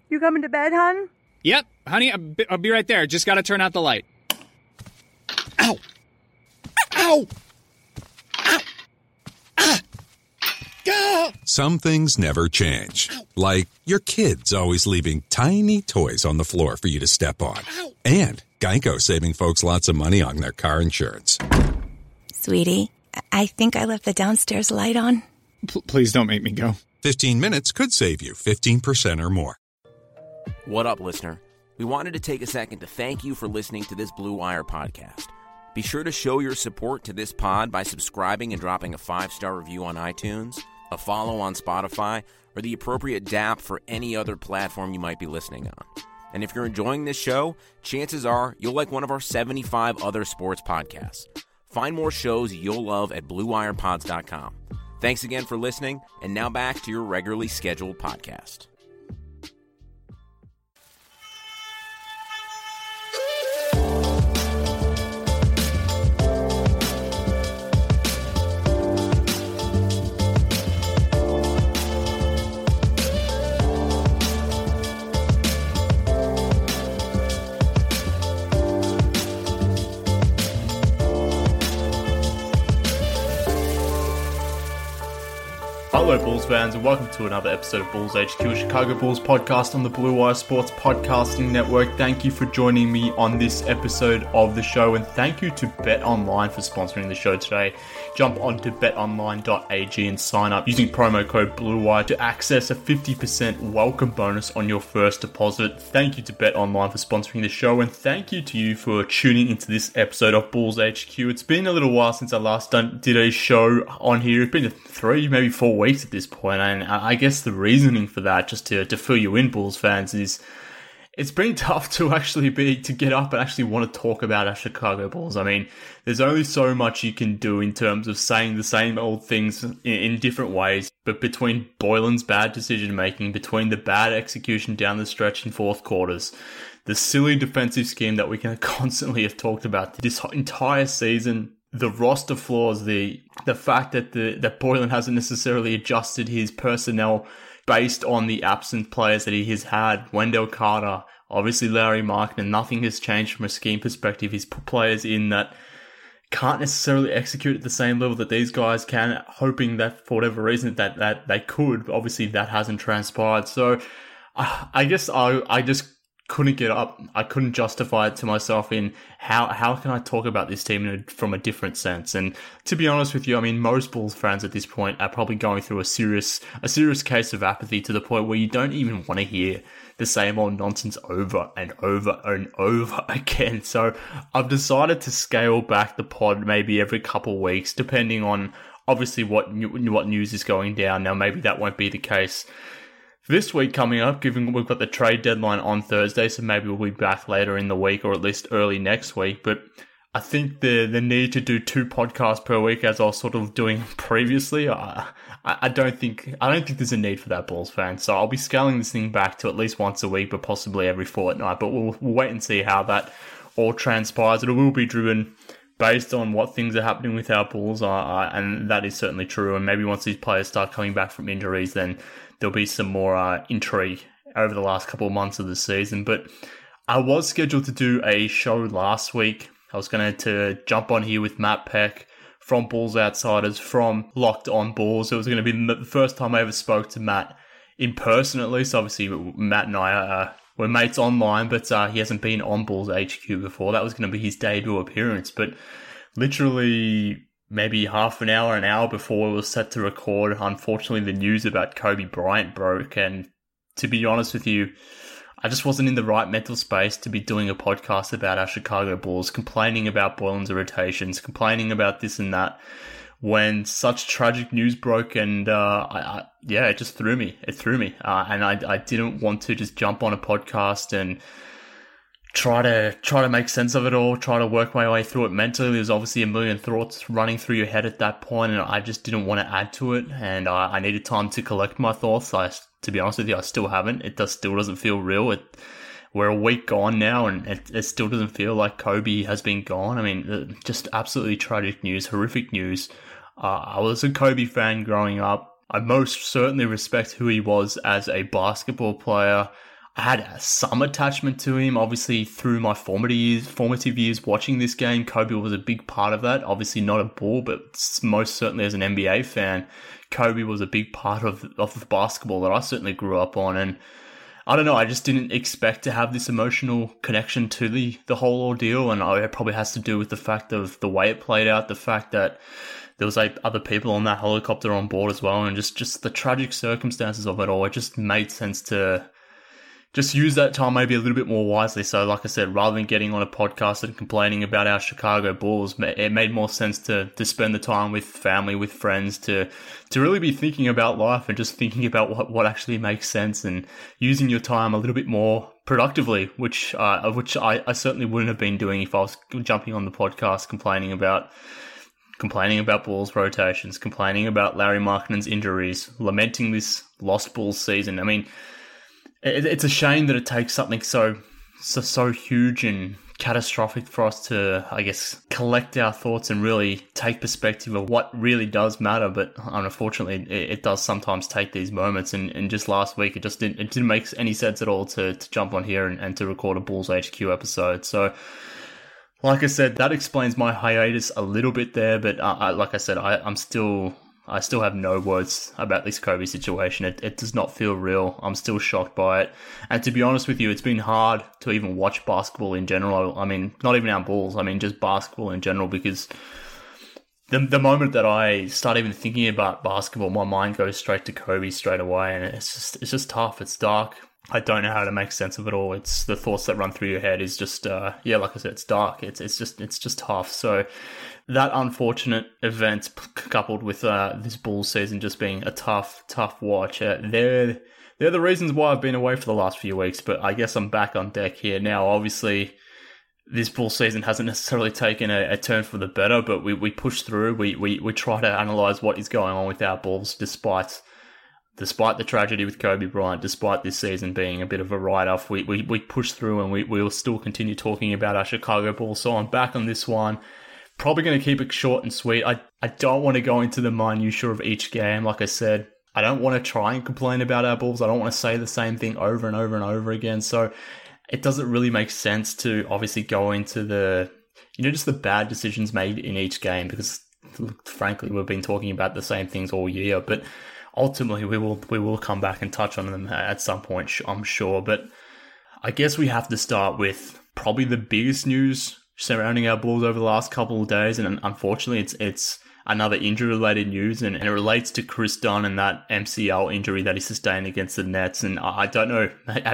You coming to bed, hon? Yep, honey, I'll be right there. Just gotta turn out the light. Ow! Ow! Ow! Ah! Go! Some things never change. Like your kids always leaving tiny toys on the floor for you to step on. And Geico saving folks lots of money on their car insurance. Sweetie, I think I left the downstairs light on. Please don't make me go. 15 minutes could save you 15% or more. What up, listener? We wanted to take a second to thank you for listening to this Blue Wire podcast. Be sure to show your support to this pod by subscribing and dropping a 5-star review on iTunes, a follow on Spotify, or the appropriate DAP for any other platform you might be listening on. And if you're enjoying this show, chances are you'll like one of our 75 other sports podcasts. Find more shows you'll love at BlueWirePods.com. Thanks again for listening, and now back to your regularly scheduled podcast. Hello Bulls fans and welcome to another episode of Bulls HQ, a Chicago Bulls podcast on the Blue Wire Sports Podcasting Network. Thank you for joining me on this episode of the show, and thank you to BetOnline for sponsoring the show today. Jump onto betonline.ag and sign up using promo code BLUEWIRE to access a 50% welcome bonus on your first deposit. Thank you to BetOnline for sponsoring the show, and thank you to you for tuning into this episode of Bulls HQ. It's been a little while since I last did a show on here. It's been 3, maybe 4 weeks at this point, and I guess the reasoning for that, just to fill you in, Bulls fans, is it's been tough to get up and actually want to talk about our Chicago Bulls. I mean, there's only so much you can do in terms of saying the same old things in different ways, but between Boylen's bad decision making, between the bad execution down the stretch in fourth quarters, the silly defensive scheme that we can constantly have talked about this entire season, the roster flaws, the fact that Boylen hasn't necessarily adjusted his personnel based on the absent players that he has had, Wendell Carter, obviously Larry Markkinen, nothing has changed from a scheme perspective. He's put players in that can't necessarily execute at the same level that these guys can, hoping that for whatever reason that they could, but obviously that hasn't transpired. So I guess I just couldn't get up. I couldn't justify it to myself in how can I talk about this team from a different sense. And to be honest with you, I mean, most Bulls fans at this point are probably going through a serious case of apathy to the point where you don't even want to hear the same old nonsense over and over and over again. So I've decided to scale back the pod maybe every couple of weeks, depending on obviously what news is going down. Now, maybe that won't be the case this week coming up, given we've got the trade deadline on Thursday, so maybe we'll be back later in the week or at least early next week. But I think the need to do 2 podcasts per week, as I was sort of doing previously, I don't think there's a need for that, Bulls fans. So I'll be scaling this thing back to at least once a week, but possibly every fortnight. But we'll wait and see how that all transpires. It will be driven based on what things are happening with our Bulls, and that is certainly true. And maybe once these players start coming back from injuries, then there'll be some more intrigue over the last couple of months of the season. But I was scheduled to do a show last week. I was going to jump on here with Matt Peck from Bulls Outsiders, from Locked On Bulls. It was going to be the first time I ever spoke to Matt in person, at least. Obviously, Matt and I were mates online, but he hasn't been on Bulls HQ before. That was going to be his debut appearance. But literally maybe half an hour before we were set to record, unfortunately the news about Kobe Bryant broke, and to be honest with you, I just wasn't in the right mental space to be doing a podcast about our Chicago Bulls, complaining about Boylen's irritations, complaining about this and that, when such tragic news broke. And it just threw me. It threw me, and I didn't want to just jump on a podcast and try to make sense of it all, try to work my way through it mentally. There's obviously a million thoughts running through your head at that point, and I just didn't want to add to it, and I needed time to collect my thoughts. To be honest with you, I still haven't. It still doesn't feel real. We're a week gone now, and it still doesn't feel like Kobe has been gone. I mean, just absolutely tragic news, horrific news. I was a Kobe fan growing up. I most certainly respect who he was as a basketball player. I had some attachment to him, obviously, through my formative years watching this game. Kobe was a big part of that. Obviously not a Bull, but most certainly as an NBA fan, Kobe was a big part of the basketball that I certainly grew up on. And I don't know, I just didn't expect to have this emotional connection to the whole ordeal. And it probably has to do with the fact of the way it played out, the fact that there was other people on that helicopter on board as well, and just the tragic circumstances of it all. It just made sense to just use that time maybe a little bit more wisely. So like I said, rather than getting on a podcast and complaining about our Chicago Bulls, it made more sense to spend the time with family, with friends, to really be thinking about life and just thinking about what actually makes sense and using your time a little bit more productively, which I certainly wouldn't have been doing if I was jumping on the podcast complaining about Bulls rotations, complaining about Larry Markkanen's injuries, lamenting this lost Bulls season. I mean, it's a shame that it takes something so huge and catastrophic for us to, I guess, collect our thoughts and really take perspective of what really does matter. But unfortunately, it does sometimes take these moments. And just last week, it didn't make any sense at all to jump on here and to record a Bulls HQ episode. So, like I said, that explains my hiatus a little bit there. But like I said, I still have no words about this Kobe situation. It does not feel real. I'm still shocked by it. And to be honest with you, it's been hard to even watch basketball in general. I mean, not even our Bulls. I mean, just basketball in general, because the moment that I start even thinking about basketball, my mind goes straight to Kobe straight away. And it's just tough. It's dark. I don't know how to make sense of it all. It's the thoughts that run through your head is just, like I said, it's dark. It's just tough. So that unfortunate event coupled with this Bulls season just being a tough watch, they're the reasons why I've been away for the last few weeks. But I guess I'm back on deck here now. Obviously, this Bulls season hasn't necessarily taken a turn for the better, but we push through. We try to analyze what is going on with our Bulls despite the tragedy with Kobe Bryant, despite this season being a bit of a write-off. We push through and we'll still continue talking about our Chicago Bulls. So I'm back on this one. Probably going to keep it short and sweet. I don't want to go into the minutiae of each game. Like I said, I don't want to try and complain about our Bulls. I don't want to say the same thing over and over and over again. So it doesn't really make sense to obviously go into just the bad decisions made in each game, because frankly, we've been talking about the same things all year. But ultimately, we will come back and touch on them at some point, I'm sure. But I guess we have to start with probably the biggest news surrounding our Bulls over the last couple of days, and unfortunately, it's another injury-related news, and it relates to Chris Dunn and that MCL injury that he sustained against the Nets. And I don't know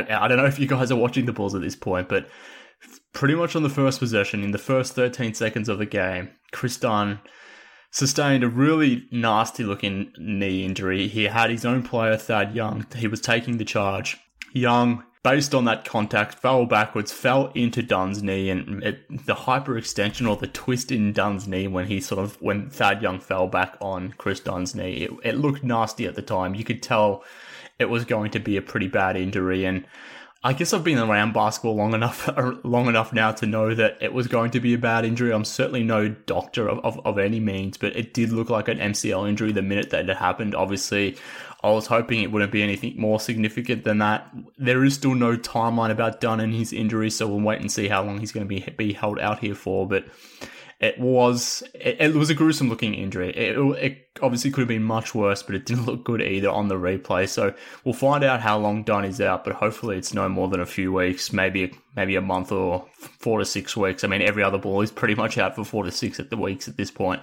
if you guys are watching the Bulls at this point, but pretty much on the first possession, in the first 13 seconds of the game, Chris Dunn sustained a really nasty-looking knee injury. He had his own player, Thad Young. He was taking the charge. Young, based on that contact, fell backwards, fell into Dunn's knee, and the hyperextension or the twist in Dunn's knee when Thad Young fell back on Chris Dunn's knee, it looked nasty at the time. You could tell it was going to be a pretty bad injury, and I guess I've been around basketball long enough now to know that it was going to be a bad injury. I'm certainly no doctor of any means, but it did look like an MCL injury the minute that it happened. Obviously, I was hoping it wouldn't be anything more significant than that. There is still no timeline about Dunn and his injury, so we'll wait and see how long he's going to be held out here for. But it was a gruesome looking injury. It obviously could have been much worse, but it didn't look good either on the replay. So we'll find out how long Dunn is out, but hopefully it's no more than a few weeks, maybe a month or 4 to 6 weeks. I mean, every other Bull is pretty much out for 4 to 6 weeks at this point.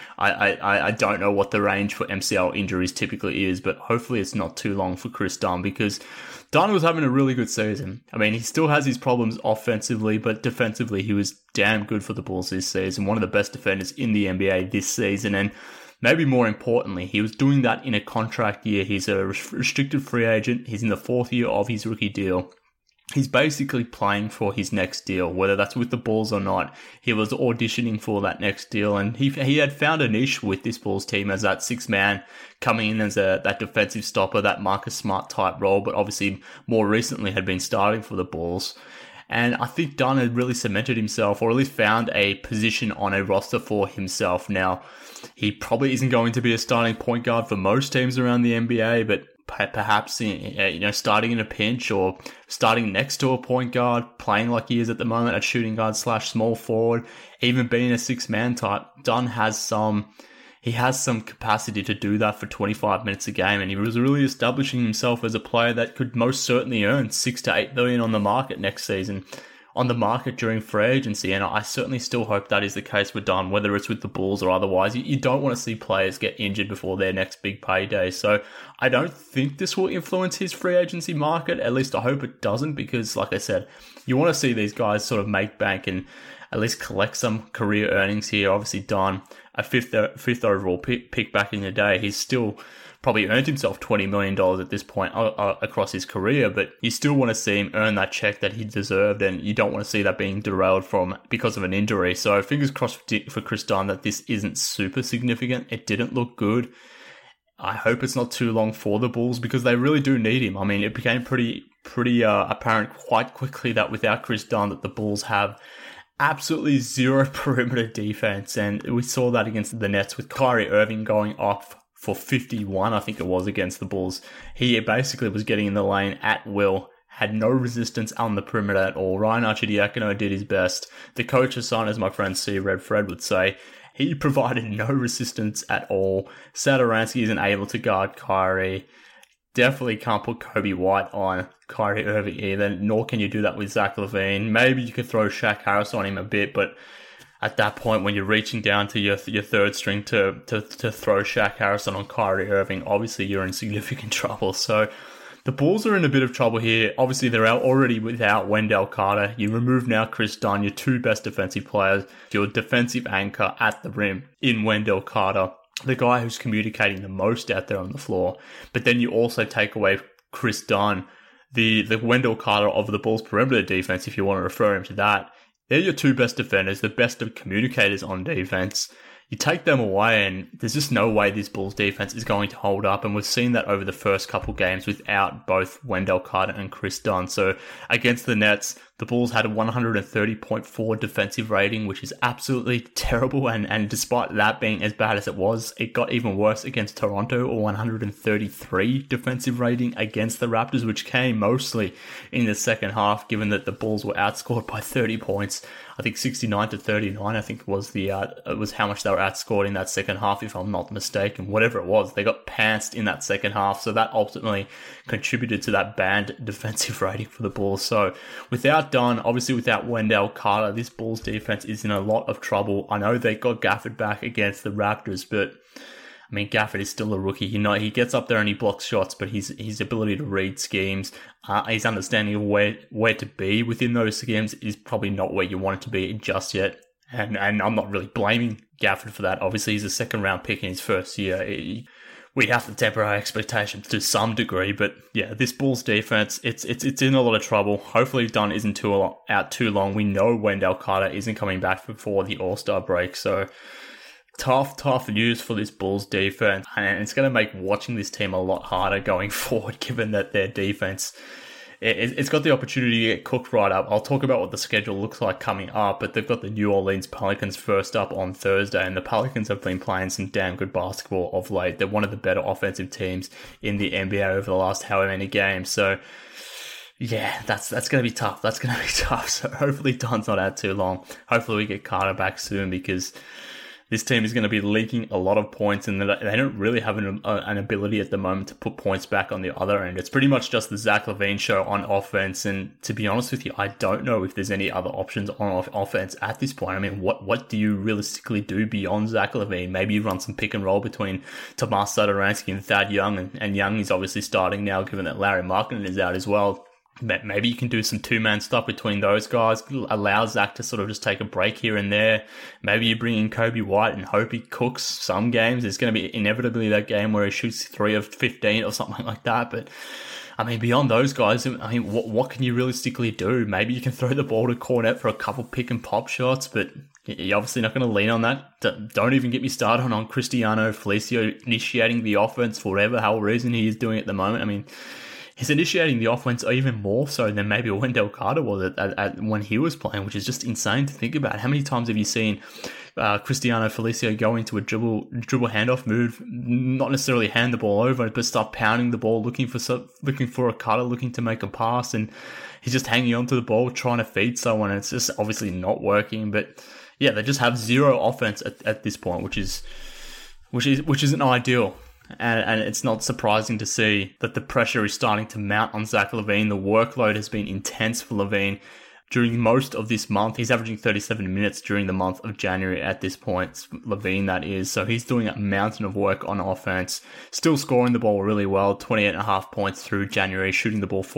I don't know what the range for MCL injuries typically is, but hopefully it's not too long for Chris Dunn, because Dunn was having a really good season. I mean, he still has his problems offensively, but defensively he was damn good for the Bulls this season. One of the best defenders in the NBA this season, and maybe more importantly, he was doing that in a contract year. He's a restricted free agent. He's in the 4th year of his rookie deal. He's basically playing for his next deal, whether that's with the Bulls or not. He was auditioning for that next deal, and he had found a niche with this Bulls team as that 6th man coming in as that defensive stopper, that Marcus Smart type role, but obviously more recently had been starting for the Bulls. And I think Dunn had really cemented himself, or at least found a position on a roster for himself. Now, he probably isn't going to be a starting point guard for most teams around the NBA, but perhaps starting in a pinch or starting next to a point guard, playing like he is at the moment at shooting guard / small forward, even being a 6-man type. Dunn has some capacity to do that for 25 minutes a game, and he was really establishing himself as a player that could most certainly earn $6 to $8 million on the market next season, on the market during free agency. And I certainly still hope that is the case with Dunn, whether it's with the Bulls or otherwise. You don't want to see players get injured before their next big payday. So I don't think this will influence his free agency market. At least I hope it doesn't, because like I said, you want to see these guys sort of make bank and at least collect some career earnings here. Obviously Dunn, a fifth overall pick back in the day, he's still probably earned himself $20 million at this point across his career, but you still want to see him earn that check that he deserved, and you don't want to see that being derailed because of an injury. So fingers crossed for Chris Dunn that this isn't super significant. It didn't look good. I hope it's not too long for the Bulls, because they really do need him. I mean, it became pretty apparent quite quickly that without Chris Dunn, that the Bulls have absolutely zero perimeter defense, and we saw that against the Nets with Kyrie Irving going off for 51, I think it was, against the Bulls. He basically was getting in the lane at will, had no resistance on the perimeter at all. Ryan Arcidiacono did his best. The coach's son, as my friend C. Red Fred would say, he provided no resistance at all. Satoransky isn't able to guard Kyrie. Definitely can't put Kobe White on Kyrie Irving either, nor can you do that with Zach LaVine. Maybe you could throw Shaq Harris on him a bit, but at that point, when you're reaching down to your third string to throw Shaq Harrison on Kyrie Irving, obviously you're in significant trouble. So the Bulls are in a bit of trouble here. Obviously, they're already without Wendell Carter. You remove now Chris Dunn, your two best defensive players, your defensive anchor at the rim in Wendell Carter, the guy who's communicating the most out there on the floor. But then you also take away Chris Dunn, the Wendell Carter of the Bulls' perimeter defense, if you want to refer him to that. They're your two best defenders, the best of communicators on defense. You take them away and there's just no way this Bulls defense is going to hold up. And we've seen that over the first couple games without both Wendell Carter and Chris Dunn. So against the Nets, the Bulls had a 130.4 defensive rating, which is absolutely terrible. And despite that being as bad as it was, it got even worse against Toronto, a 133 defensive rating against the Raptors, which came mostly in the second half, given that the Bulls were outscored by 30 points. I think 69 to 39, I think was how much they were outscored in that second half, if I'm not mistaken. Whatever it was, they got pantsed in that second half. So that ultimately contributed to that banned defensive rating for the Bulls. So without Dunn, obviously without Wendell Carter, this Bulls defense is in a lot of trouble. I know they got Gafford back against the Raptors, but I mean, Gafford is still a rookie. He gets up there and he blocks shots, but his ability to read schemes, his understanding of where to be within those schemes is probably not where you want it to be just yet. And I'm not really blaming Gafford for that. Obviously, he's a second-round pick in his first year. We have to temper our expectations to some degree, but yeah, this Bulls defense, it's in a lot of trouble. Hopefully Dunn isn't out too long. We know Wendell Carter isn't coming back before the All-Star break, so tough news for this Bulls defense, and it's going to make watching this team a lot harder going forward, given that their defense, it's got the opportunity to get cooked right up. I'll talk about what the schedule looks like coming up, but they've got the New Orleans Pelicans first up on Thursday, and the Pelicans have been playing some damn good basketball of late. They're one of the better offensive teams in the NBA over the last however many games, so yeah, that's going to be tough. That's going to be tough, so hopefully Dunn's not out too long. Hopefully we get Carter back soon, because this team is going to be leaking a lot of points, and they don't really have an ability at the moment to put points back on the other end. It's pretty much just the Zach LaVine show on offense, and to be honest with you, I don't know if there's any other options on offense at this point. I mean, what do you realistically do beyond Zach LaVine? Maybe you run some pick and roll between Tomas Satoransky and Thad Young, and Young is obviously starting now, given that Larry Markkinen is out as well. Maybe you can do some two-man stuff between those guys, allow Zach to sort of just take a break here and there. Maybe you bring in Kobe White and hope he cooks some games. There's going to be inevitably that game where he shoots 3 of 15 or something like that. But, I mean, beyond those guys, I mean, what can you realistically do? Maybe you can throw the ball to Cornet for a couple pick and pop shots, but you're obviously not going to lean on that. Don't even get me started on Cristiano Felicio initiating the offense for whatever hell reason he is doing at the moment. I mean, he's initiating the offense even more so than maybe Wendell Carter was when he was playing, which is just insane to think about. How many times have you seen Cristiano Felicio go into a dribble handoff move, not necessarily hand the ball over, but start pounding the ball, looking for a cutter, looking to make a pass, and he's just hanging onto the ball, trying to feed someone, and it's just obviously not working. But yeah, they just have zero offense at this point, which isn't ideal. And it's not surprising to see that the pressure is starting to mount on Zach LaVine. The workload has been intense for LaVine during most of this month. He's averaging 37 minutes during the month of January at this point, LaVine that is. So he's doing a mountain of work on offense, still scoring the ball really well, 28.5 points through January, shooting the ball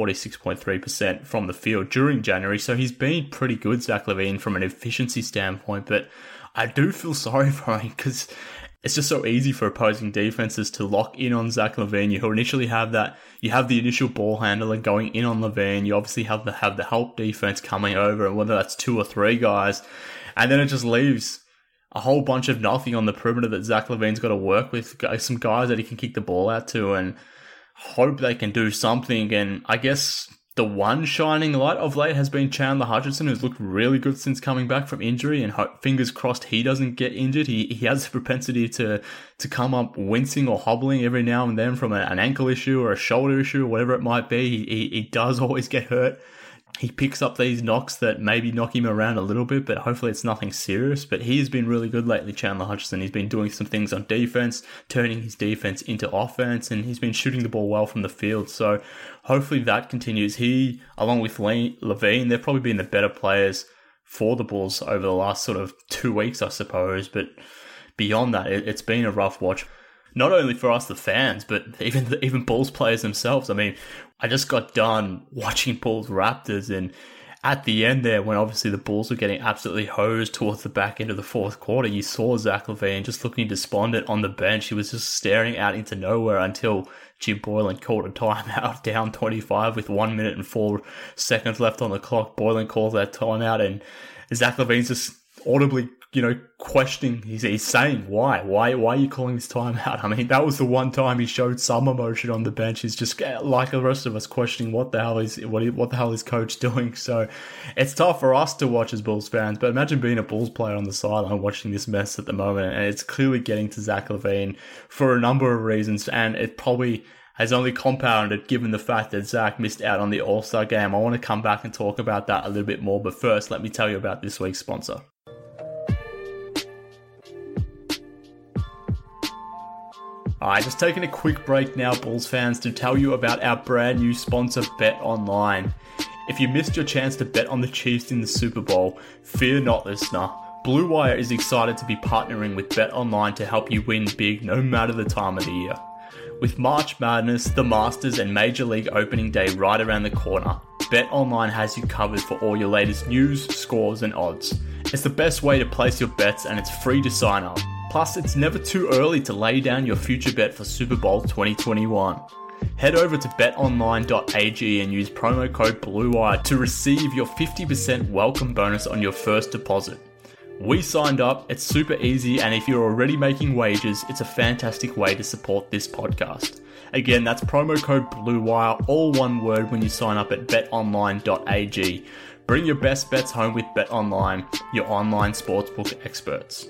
46.3% from the field during January. So he's been pretty good, Zach LaVine, from an efficiency standpoint. But I do feel sorry for him because it's just so easy for opposing defenses to lock in on Zach LaVine. You initially have that. You have the initial ball handler going in on LaVine. You obviously have the help defense coming over, and whether that's 2 or 3 guys, and then it just leaves a whole bunch of nothing on the perimeter that Zach LaVine's got to work with. Some guys that he can kick the ball out to, and hope they can do something. And I guess the one shining light of late has been Chandler Hutchinson, who's looked really good since coming back from injury, and fingers crossed he doesn't get injured. He has a propensity to come up wincing or hobbling every now and then from an ankle issue or a shoulder issue or whatever it might be. He does always get hurt. He picks up these knocks that maybe knock him around a little bit, but hopefully it's nothing serious. But he has been really good lately, Chandler Hutchinson. He's been doing some things on defense, turning his defense into offense, and he's been shooting the ball well from the field. So hopefully that continues. He, along with LaVine, they've probably been the better players for the Bulls over the last sort of 2 weeks, I suppose. But beyond that, it's been a rough watch. Not only for us, the fans, but even Bulls players themselves. I mean, I just got done watching Bulls Raptors, and at the end there, when obviously the Bulls were getting absolutely hosed towards the back end of the fourth quarter, you saw Zach LaVine just looking despondent on the bench. He was just staring out into nowhere until Jim Boylen called a timeout down 25 with 1 minute and 4 seconds left on the clock. Boylen calls that timeout, and Zach LaVine's just audibly, questioning. He's saying, why are you calling this timeout? I mean, that was the one time he showed some emotion on the bench. He's just like the rest of us questioning what the hell is coach doing. So it's tough for us to watch as Bulls fans, but imagine being a Bulls player on the sideline watching this mess at the moment. And it's clearly getting to Zach LaVine for a number of reasons, and it probably has only compounded given the fact that Zach missed out on the All-Star game. I want to come back and talk about that a little bit more, but first, let me tell you about this week's sponsor. Alright, just taking a quick break now, Bulls fans, to tell you about our brand new sponsor, BetOnline. If you missed your chance to bet on the Chiefs in the Super Bowl, fear not, listener. Blue Wire is excited to be partnering with BetOnline to help you win big no matter the time of the year. With March Madness, the Masters, and Major League Opening Day right around the corner, BetOnline has you covered for all your latest news, scores, and odds. It's the best way to place your bets, and it's free to sign up. Plus, it's never too early to lay down your future bet for Super Bowl 2021. Head over to betonline.ag and use promo code BLUEWIRE to receive your 50% welcome bonus on your first deposit. We signed up, it's super easy, and if you're already making wagers, it's a fantastic way to support this podcast. Again, that's promo code BLUEWIRE, all one word, when you sign up at betonline.ag. Bring your best bets home with BetOnline, your online sportsbook experts.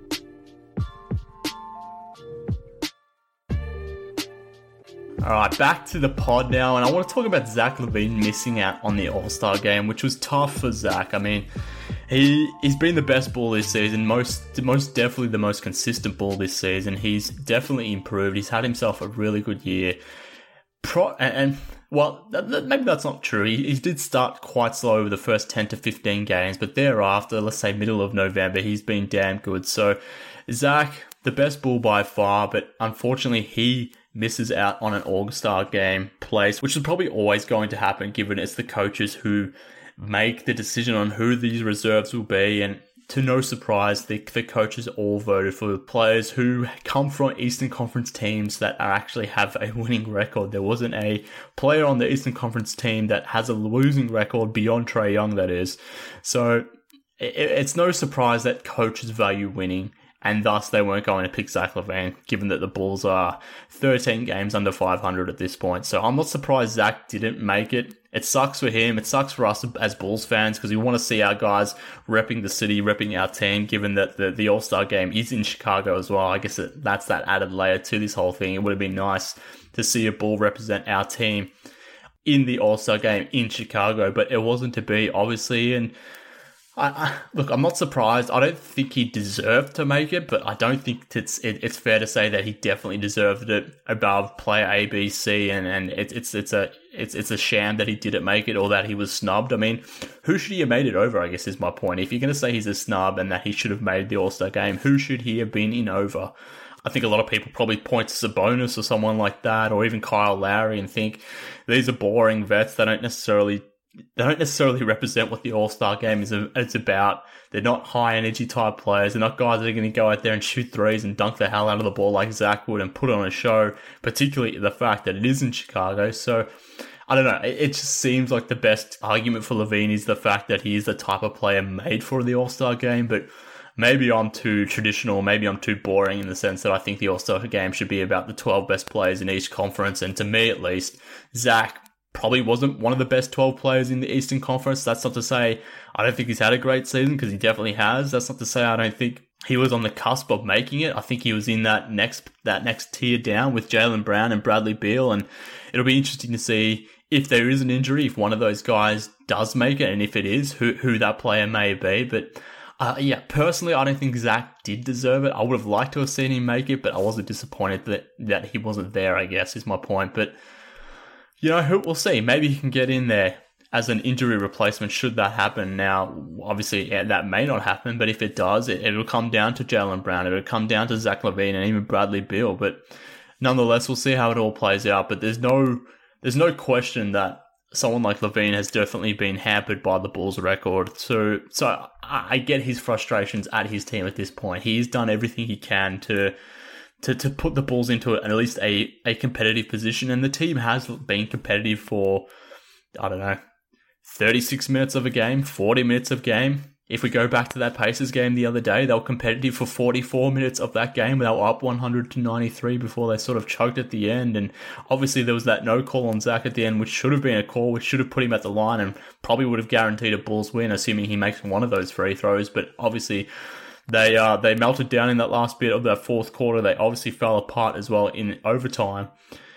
Alright, back to the pod now, and I want to talk about Zach LaVine missing out on the All-Star game, which was tough for Zach. I mean, he's been the best Bull this season, most definitely the most consistent Bull this season. He's definitely improved. He's had himself a really good year. Maybe that's not true. He did start quite slow over the first 10 to 15 games, but thereafter, let's say middle of November, he's been damn good. So, Zach, the best Bull by far, but unfortunately he misses out on an All-Star game place, which is probably always going to happen given it's the coaches who make the decision on who these reserves will be. And to no surprise, the coaches all voted for players who come from Eastern Conference teams that actually have a winning record. There wasn't a player on the Eastern Conference team that has a losing record beyond Trae Young, that is. So it's no surprise that coaches value winning. and thus they weren't going to pick Zach LaVine, given that the Bulls are 13 games under 500 at this point. So I'm not surprised Zach didn't make it. It sucks for him. It sucks for us as Bulls fans because we want to see our guys repping the city, repping our team, given that the All-Star game is in Chicago as well. I guess that's that added layer to this whole thing. It would have been nice to see a Bull represent our team in the All-Star game in Chicago, but it wasn't to be, obviously. And look, I'm not surprised. I don't think he deserved to make it, but I don't think it's fair to say that he definitely deserved it above player A, B, C, and it's a sham that he didn't make it or that he was snubbed. I mean, who should he have made it over, I guess is my point. If you're going to say he's a snub and that he should have made the All-Star game, who should he have been in over? I think a lot of people probably point to Sabonis or someone like that, or even Kyle Lowry, and think these are boring vets. They don't necessarily represent what the All-Star game is about. They're not high-energy type players. They're not guys that are going to go out there and shoot threes and dunk the hell out of the ball like Zach would and put on a show, particularly the fact that it is in Chicago. So, I don't know. It just seems like the best argument for LaVine is the fact that he is the type of player made for the All-Star game, but maybe I'm too traditional, maybe I'm too boring in the sense that I think the All-Star game should be about the 12 best players in each conference, and to me at least, Zach probably wasn't one of the best 12 players in the Eastern Conference. That's not to say I don't think he's had a great season, because he definitely has. That's not to say I don't think he was on the cusp of making it. I think he was in that next tier down with Jaylen Brown and Bradley Beal, and it'll be interesting to see if there is an injury, if one of those guys does make it, and if it is, who that player may be. But personally, I don't think Zach did deserve it. I would have liked to have seen him make it, but I wasn't disappointed that he wasn't there, I guess, is my point. But, we'll see. Maybe he can get in there as an injury replacement should that happen. Now, obviously, that may not happen, but if it does, it'll come down to Jaylen Brown. It'll come down to Zach LaVine and even Bradley Beal. But nonetheless, we'll see how it all plays out. But there's no question that someone like LaVine has definitely been hampered by the Bulls' record. So I get his frustrations at his team at this point. He's done everything he can to put the Bulls into at least a competitive position, and the team has been competitive for, 36 minutes of a game, 40 minutes of game. If we go back to that Pacers game the other day, they were competitive for 44 minutes of that game. They were up 100-93 before they sort of choked at the end. And obviously there was that no call on Zach at the end, which should have been a call, which should have put him at the line and probably would have guaranteed a Bulls win, assuming he makes one of those free throws. But obviously they melted down in that last bit of that fourth quarter. They obviously fell apart as well in overtime.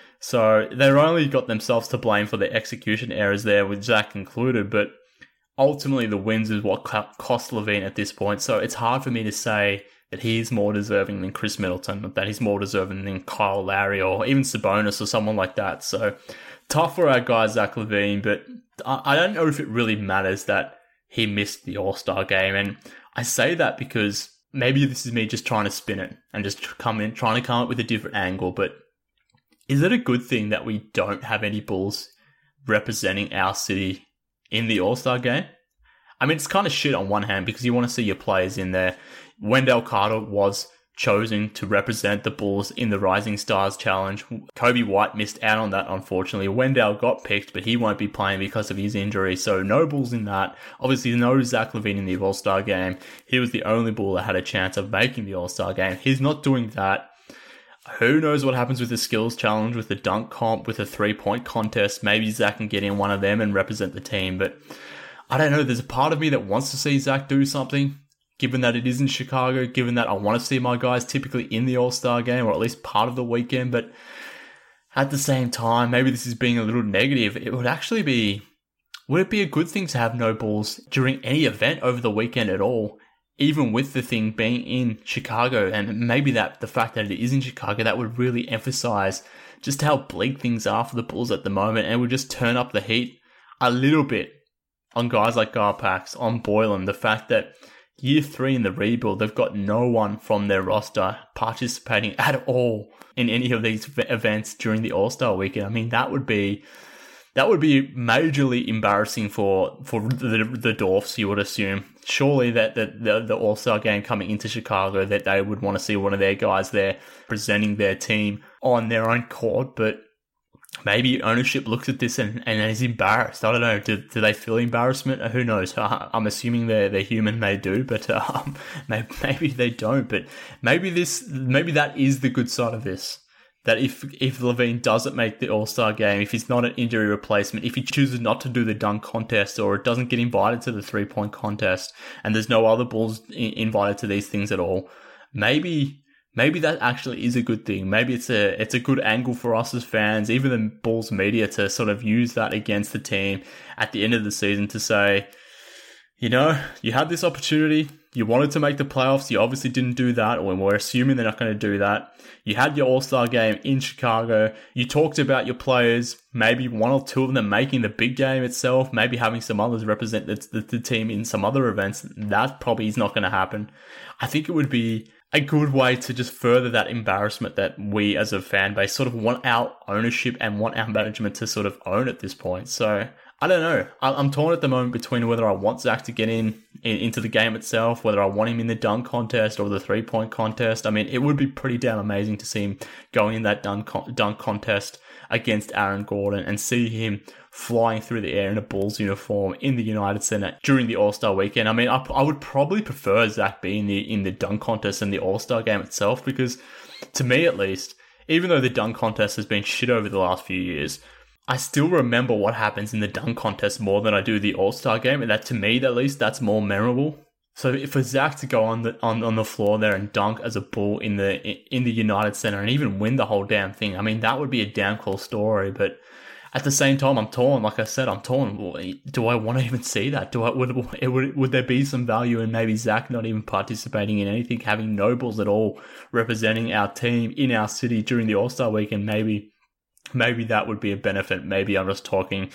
So they've only got themselves to blame for the execution errors there, with Zach included. But ultimately, the wins is what cost LaVine at this point. So it's hard for me to say that he's more deserving than Chris Middleton, that he's more deserving than Kyle Lowry or even Sabonis or someone like that. So tough for our guy, Zach LaVine, but I don't know if it really matters that he missed the All-Star game. And I say that because maybe this is me just trying to spin it and just trying to come up with a different angle. But is it a good thing that we don't have any Bulls representing our city in the All-Star game? I mean, it's kind of shit on one hand because you want to see your players in there. Wendell Carter was chosen to represent the Bulls in the Rising Stars Challenge. Kobe White missed out on that, unfortunately. Wendell got picked, but he won't be playing because of his injury, so no Bulls in that. Obviously, no Zach LaVine in the All-Star game. He was the only Bull that had a chance of making the All-Star game. He's not doing that. Who knows what happens with the skills challenge, with the dunk comp, with a 3-point contest. Maybe Zach can get in one of them and represent the team. But I don't know. There's a part of me that wants to see Zach do something, given that it is in Chicago, given that I want to see my guys typically in the All-Star game, or at least part of the weekend. But at the same time, maybe this is being a little negative. It would actually be, would it be a good thing to have no Bulls during any event over the weekend at all? Even with the thing being in Chicago, and maybe that the fact that it is in Chicago, that would really emphasize just how bleak things are for the Bulls at the moment, and would just turn up the heat a little bit on guys like Garpax, on Boylan. The fact that year 3 in the rebuild, they've got no one from their roster participating at all in any of these events during the All-Star weekend. I mean, that would be majorly embarrassing for the Dwarfs, you would assume. Surely that the All-Star game coming into Chicago, that they would want to see one of their guys there presenting their team on their own court. But maybe ownership looks at this and is embarrassed. I don't know. Do they feel embarrassment? Who knows? I'm assuming they're human. They do, but maybe they don't. But maybe that is the good side of this. That if LaVine doesn't make the All-Star game, if he's not an injury replacement, if he chooses not to do the dunk contest or doesn't get invited to the 3-point contest, and there's no other Bulls invited to these things at all, maybe that actually is a good thing. Maybe it's a good angle for us as fans, even the Bulls media, to sort of use that against the team at the end of the season to say, you had this opportunity. You wanted to make the playoffs. You obviously didn't do that, or we're assuming they're not going to do that. You had your All-Star game in Chicago. You talked about your players, maybe one or two of them making the big game itself, maybe having some others represent the team in some other events. That probably is not going to happen. I think it would be a good way to just further that embarrassment that we as a fan base sort of want our ownership and want our management to sort of own at this point. So I don't know. I'm torn at the moment between whether I want Zach to get into the game itself, whether I want him in the dunk contest or the 3-point contest. I mean, it would be pretty damn amazing to see him going in that dunk contest against Aaron Gordon and see him flying through the air in a Bulls uniform in the United Center during the All-Star weekend. I mean, I would probably prefer Zach being in the dunk contest and the All-Star game itself, because to me at least, even though the dunk contest has been shit over the last few years, I still remember what happens in the dunk contest more than I do the All-Star game, and that to me at least that's more memorable. So for Zach to go on the floor there and dunk as a Bull in the United Center and even win the whole damn thing, I mean, that would be a damn cool story. But at the same time, I'm torn. Like I said, I'm torn. Do I want to even see that? Would there be some value in maybe Zach not even participating in anything, having no Bulls at all representing our team in our city during the All-Star weekend? Maybe that would be a benefit. Maybe I'm just talking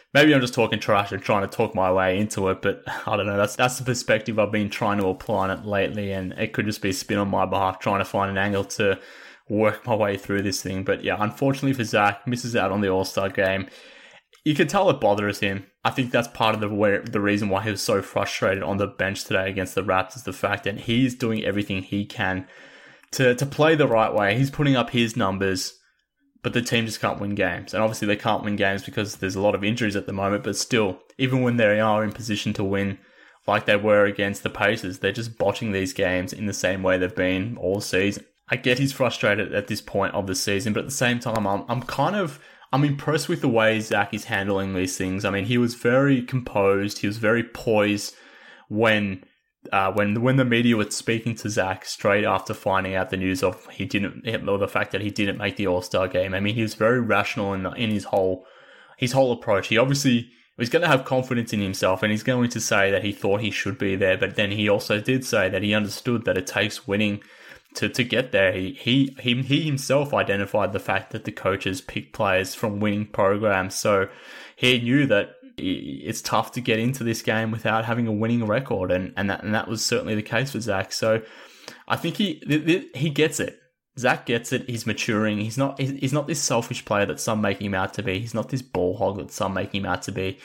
trash and trying to talk my way into it, but I don't know. That's the perspective I've been trying to apply on it lately, and it could just be a spin on my behalf, trying to find an angle to work my way through this thing. But yeah, unfortunately for Zach, misses out on the All-Star game. You can tell it bothers him. I think that's part of the reason why he was so frustrated on the bench today against the Raptors, the fact that he's doing everything he can to play the right way. He's putting up his numbers, but the team just can't win games. And obviously they can't win games because there's a lot of injuries at the moment, but still, even when they are in position to win, like they were against the Pacers, they're just botching these games in the same way they've been all season. I get he's frustrated at this point of the season, but at the same time, I'm impressed with the way Zach is handling these things. I mean, he was very composed. He was very poised when the media was speaking to Zach straight after finding out the news of the fact that he didn't make the All-Star game. I mean, he was very rational in his whole approach. He obviously was going to have confidence in himself, and he's going to say that he thought he should be there, but then he also did say that he understood that it takes winning to get there. He himself identified the fact that the coaches pick players from winning programs, so he knew that it's tough to get into this game without having a winning record, and that was certainly the case for Zach. So I think he gets it. Zach gets it. He's maturing. He's not this selfish player that some make him out to be. He's not this ball hog that some make him out to be.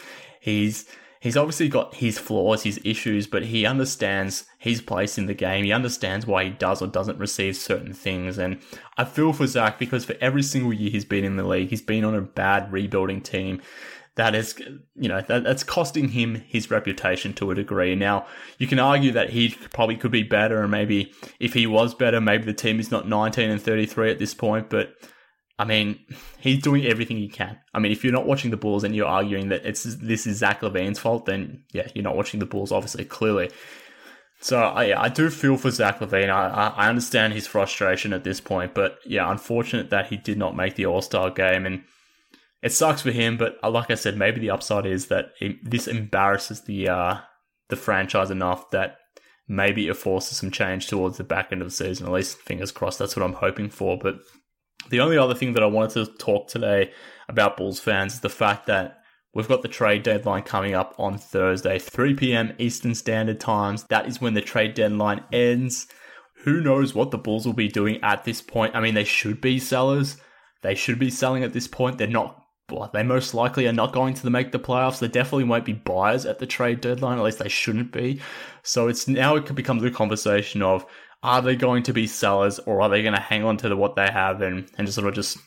He's obviously got his flaws, his issues, but he understands his place in the game. He understands why he does or doesn't receive certain things. And I feel for Zach, because for every single year he's been in the league, he's been on a bad rebuilding team that is, that's costing him his reputation to a degree. Now, you can argue that he probably could be better, and maybe if he was better, maybe the team is not 19-33 at this point, but I mean, he's doing everything he can. I mean, if you're not watching the Bulls and you're arguing that this is Zach LaVine's fault, then yeah, you're not watching the Bulls, obviously, clearly. So I do feel for Zach LaVine. I understand his frustration at this point, but yeah, unfortunate that he did not make the All-Star game, and it sucks for him. But like I said, maybe the upside is that this embarrasses the franchise enough that maybe it forces some change towards the back end of the season. At least, fingers crossed, that's what I'm hoping for. But the only other thing that I wanted to talk today about Bulls fans is the fact that we've got the trade deadline coming up on Thursday, 3 p.m. Eastern Standard Times. That is when the trade deadline ends. Who knows what the Bulls will be doing at this point? I mean, they should be sellers. They should be selling at this point. They're not. Well, they most likely are not going to make the playoffs. They definitely won't be buyers at the trade deadline. At least they shouldn't be. So it becomes a conversation of, are they going to be sellers, or are they going to hang on to what they have and just sort of just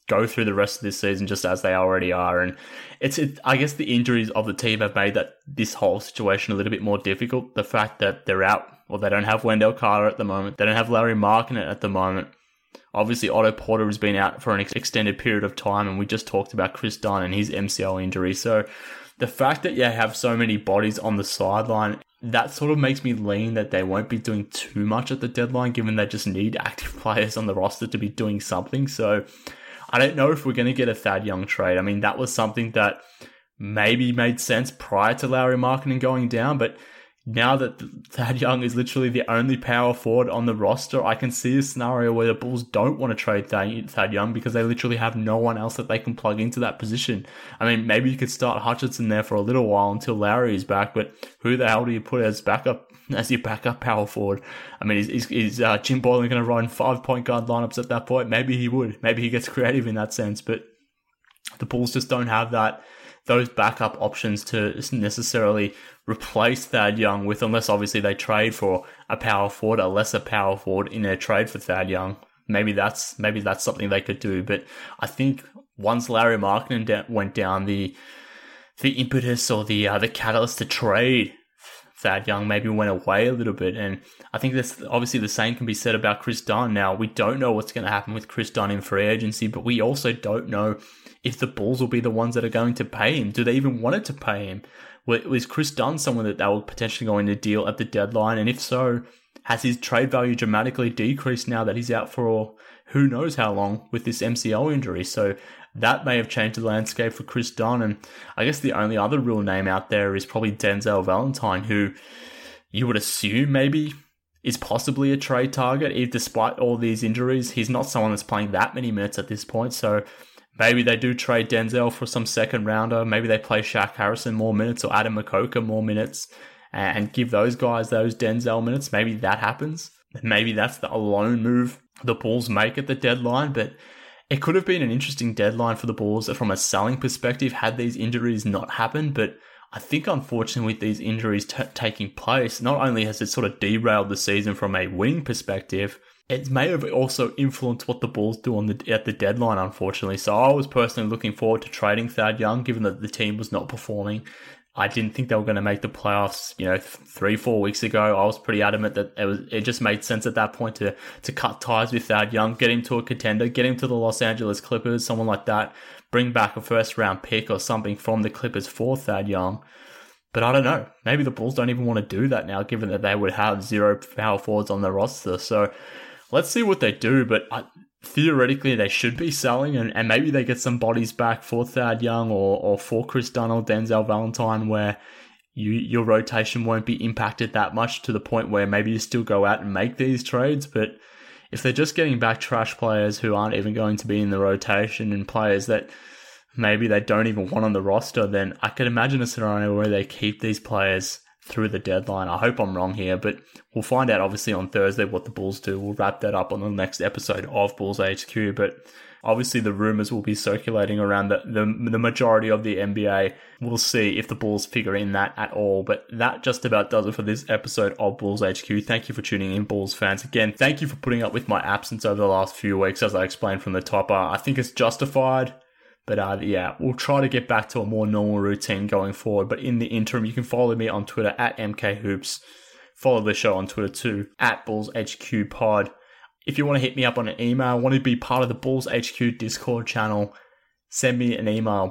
go through the rest of this season just as they already are. And I guess the injuries of the team have made this whole situation a little bit more difficult. The fact that they're out, or they don't have Wendell Carter at the moment, they don't have Larry Markkinen at the moment. Obviously, Otto Porter has been out for an extended period of time, and we just talked about Chris Dunn and his MCL injury. So the fact that you have so many bodies on the sideline, that sort of makes me lean that they won't be doing too much at the deadline, given they just need active players on the roster to be doing something. So I don't know if we're going to get a Thad Young trade. I mean, that was something that maybe made sense prior to Larry Markkinen going down, but now that Thad Young is literally the only power forward on the roster, I can see a scenario where the Bulls don't want to trade Thad Young because they literally have no one else that they can plug into that position. I mean, maybe you could start Hutchinson there for a little while until Larry is back, but who the hell do you put as your backup power forward? I mean, is Jim Boylan going to run 5-point guard lineups at that point? Maybe he would. Maybe he gets creative in that sense, but the Bulls just don't have those backup options to necessarily replace Thad Young with, unless obviously they trade for a power forward, a lesser power forward in their trade for Thad Young. Maybe that's something they could do. But I think once Larry Markkinen went down, the impetus or the catalyst to trade Thad Young maybe went away a little bit. And I think that's obviously the same can be said about Chris Dunn. Now, we don't know what's going to happen with Chris Dunn in free agency, but we also don't know if the Bulls will be the ones that are going to pay him. Do they even want to pay him? Was Chris Dunn someone that they were potentially going to deal at the deadline? And if so, has his trade value dramatically decreased now that he's out for who knows how long with this MCL injury? So that may have changed the landscape for Chris Dunn. And I guess the only other real name out there is probably Denzel Valentine, who you would assume maybe is possibly a trade target. Despite all these injuries, he's not someone that's playing that many minutes at this point. So maybe they do trade Denzel for some second rounder. Maybe they play Shaq Harrison more minutes or Adam Makoka more minutes and give those guys those Denzel minutes. Maybe that happens. Maybe that's the alone move the Bulls make at the deadline. But it could have been an interesting deadline for the Bulls from a selling perspective had these injuries not happened. But I think, unfortunately, with these injuries taking place, not only has it sort of derailed the season from a winning perspective, it may have also influenced what the Bulls do at the deadline, unfortunately. So I was personally looking forward to trading Thad Young, given that the team was not performing. I didn't think they were going to make the playoffs, 3-4 weeks ago. I was pretty adamant that it just made sense at that point to cut ties with Thad Young, get him to a contender, get him to the Los Angeles Clippers, someone like that, bring back a first-round pick or something from the Clippers for Thad Young. But I don't know. Maybe the Bulls don't even want to do that now, given that they would have 0 power forwards on the roster. So let's see what they do, but theoretically they should be selling, and maybe they get some bodies back for Thad Young or for Chris Dunn or Denzel Valentine, where your rotation won't be impacted that much to the point where maybe you still go out and make these trades. But if they're just getting back trash players who aren't even going to be in the rotation and players that maybe they don't even want on the roster, then I could imagine a scenario where they keep these players through the deadline. I hope I'm wrong here, but we'll find out obviously on Thursday what the Bulls do. We'll wrap that up on the next episode of Bulls HQ, but obviously the rumors will be circulating around the majority of the NBA. We'll see if the Bulls figure in that at all, but that just about does it for this episode of Bulls HQ. Thank you for tuning in, Bulls fans. Again, thank you for putting up with my absence over the last few weeks, as I explained from the top. I think it's justified. But we'll try to get back to a more normal routine going forward. But in the interim, you can follow me on Twitter at MKHoops. Follow the show on Twitter too, at BullsHQPod. If you want to hit me up on an email, want to be part of the Bulls HQ Discord channel, send me an email,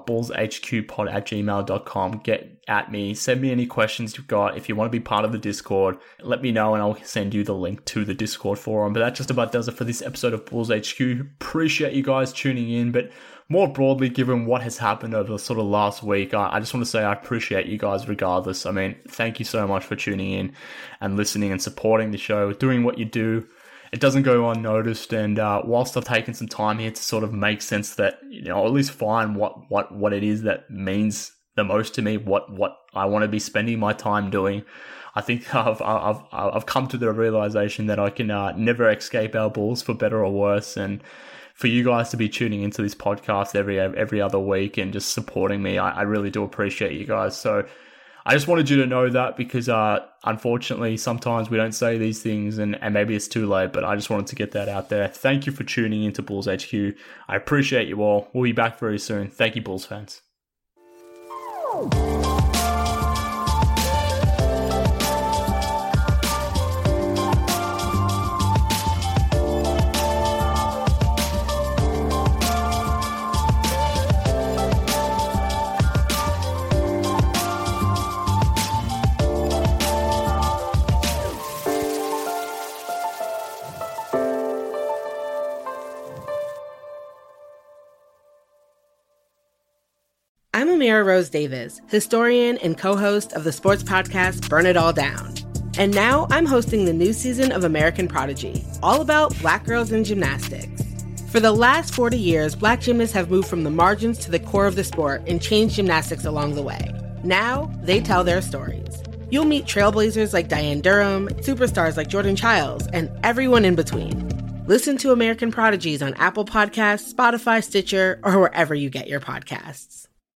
bullshqpod@gmail.com. Get at me. Send me any questions you've got. If you want to be part of the Discord, let me know and I'll send you the link to the Discord forum. But that just about does it for this episode of Bulls HQ. Appreciate you guys tuning in. But more broadly, given what has happened over the sort of last week, I just want to say I appreciate you guys regardless. I mean, thank you so much for tuning in and listening and supporting the show, doing what you do. It doesn't go unnoticed, and whilst I've taken some time here to sort of make sense that, or at least find what it is that means the most to me, what I want to be spending my time doing, I think I've come to the realization that I can never escape our Bulls, for better or worse, and for you guys to be tuning into this podcast every other week and just supporting me, I really do appreciate you guys. So I just wanted you to know that because unfortunately sometimes we don't say these things and maybe it's too late, but I just wanted to get that out there. Thank you for tuning into Bulls HQ. I appreciate you all. We'll be back very soon. Thank you, Bulls fans. I'm Amira Rose Davis, historian and co-host of the sports podcast Burn It All Down. And now I'm hosting the new season of American Prodigy, all about Black girls in gymnastics. For the last 40 years, Black gymnasts have moved from the margins to the core of the sport and changed gymnastics along the way. Now, they tell their stories. You'll meet trailblazers like Diane Durham, superstars like Jordan Childs, and everyone in between. Listen to American Prodigies on Apple Podcasts, Spotify, Stitcher, or wherever you get your podcasts.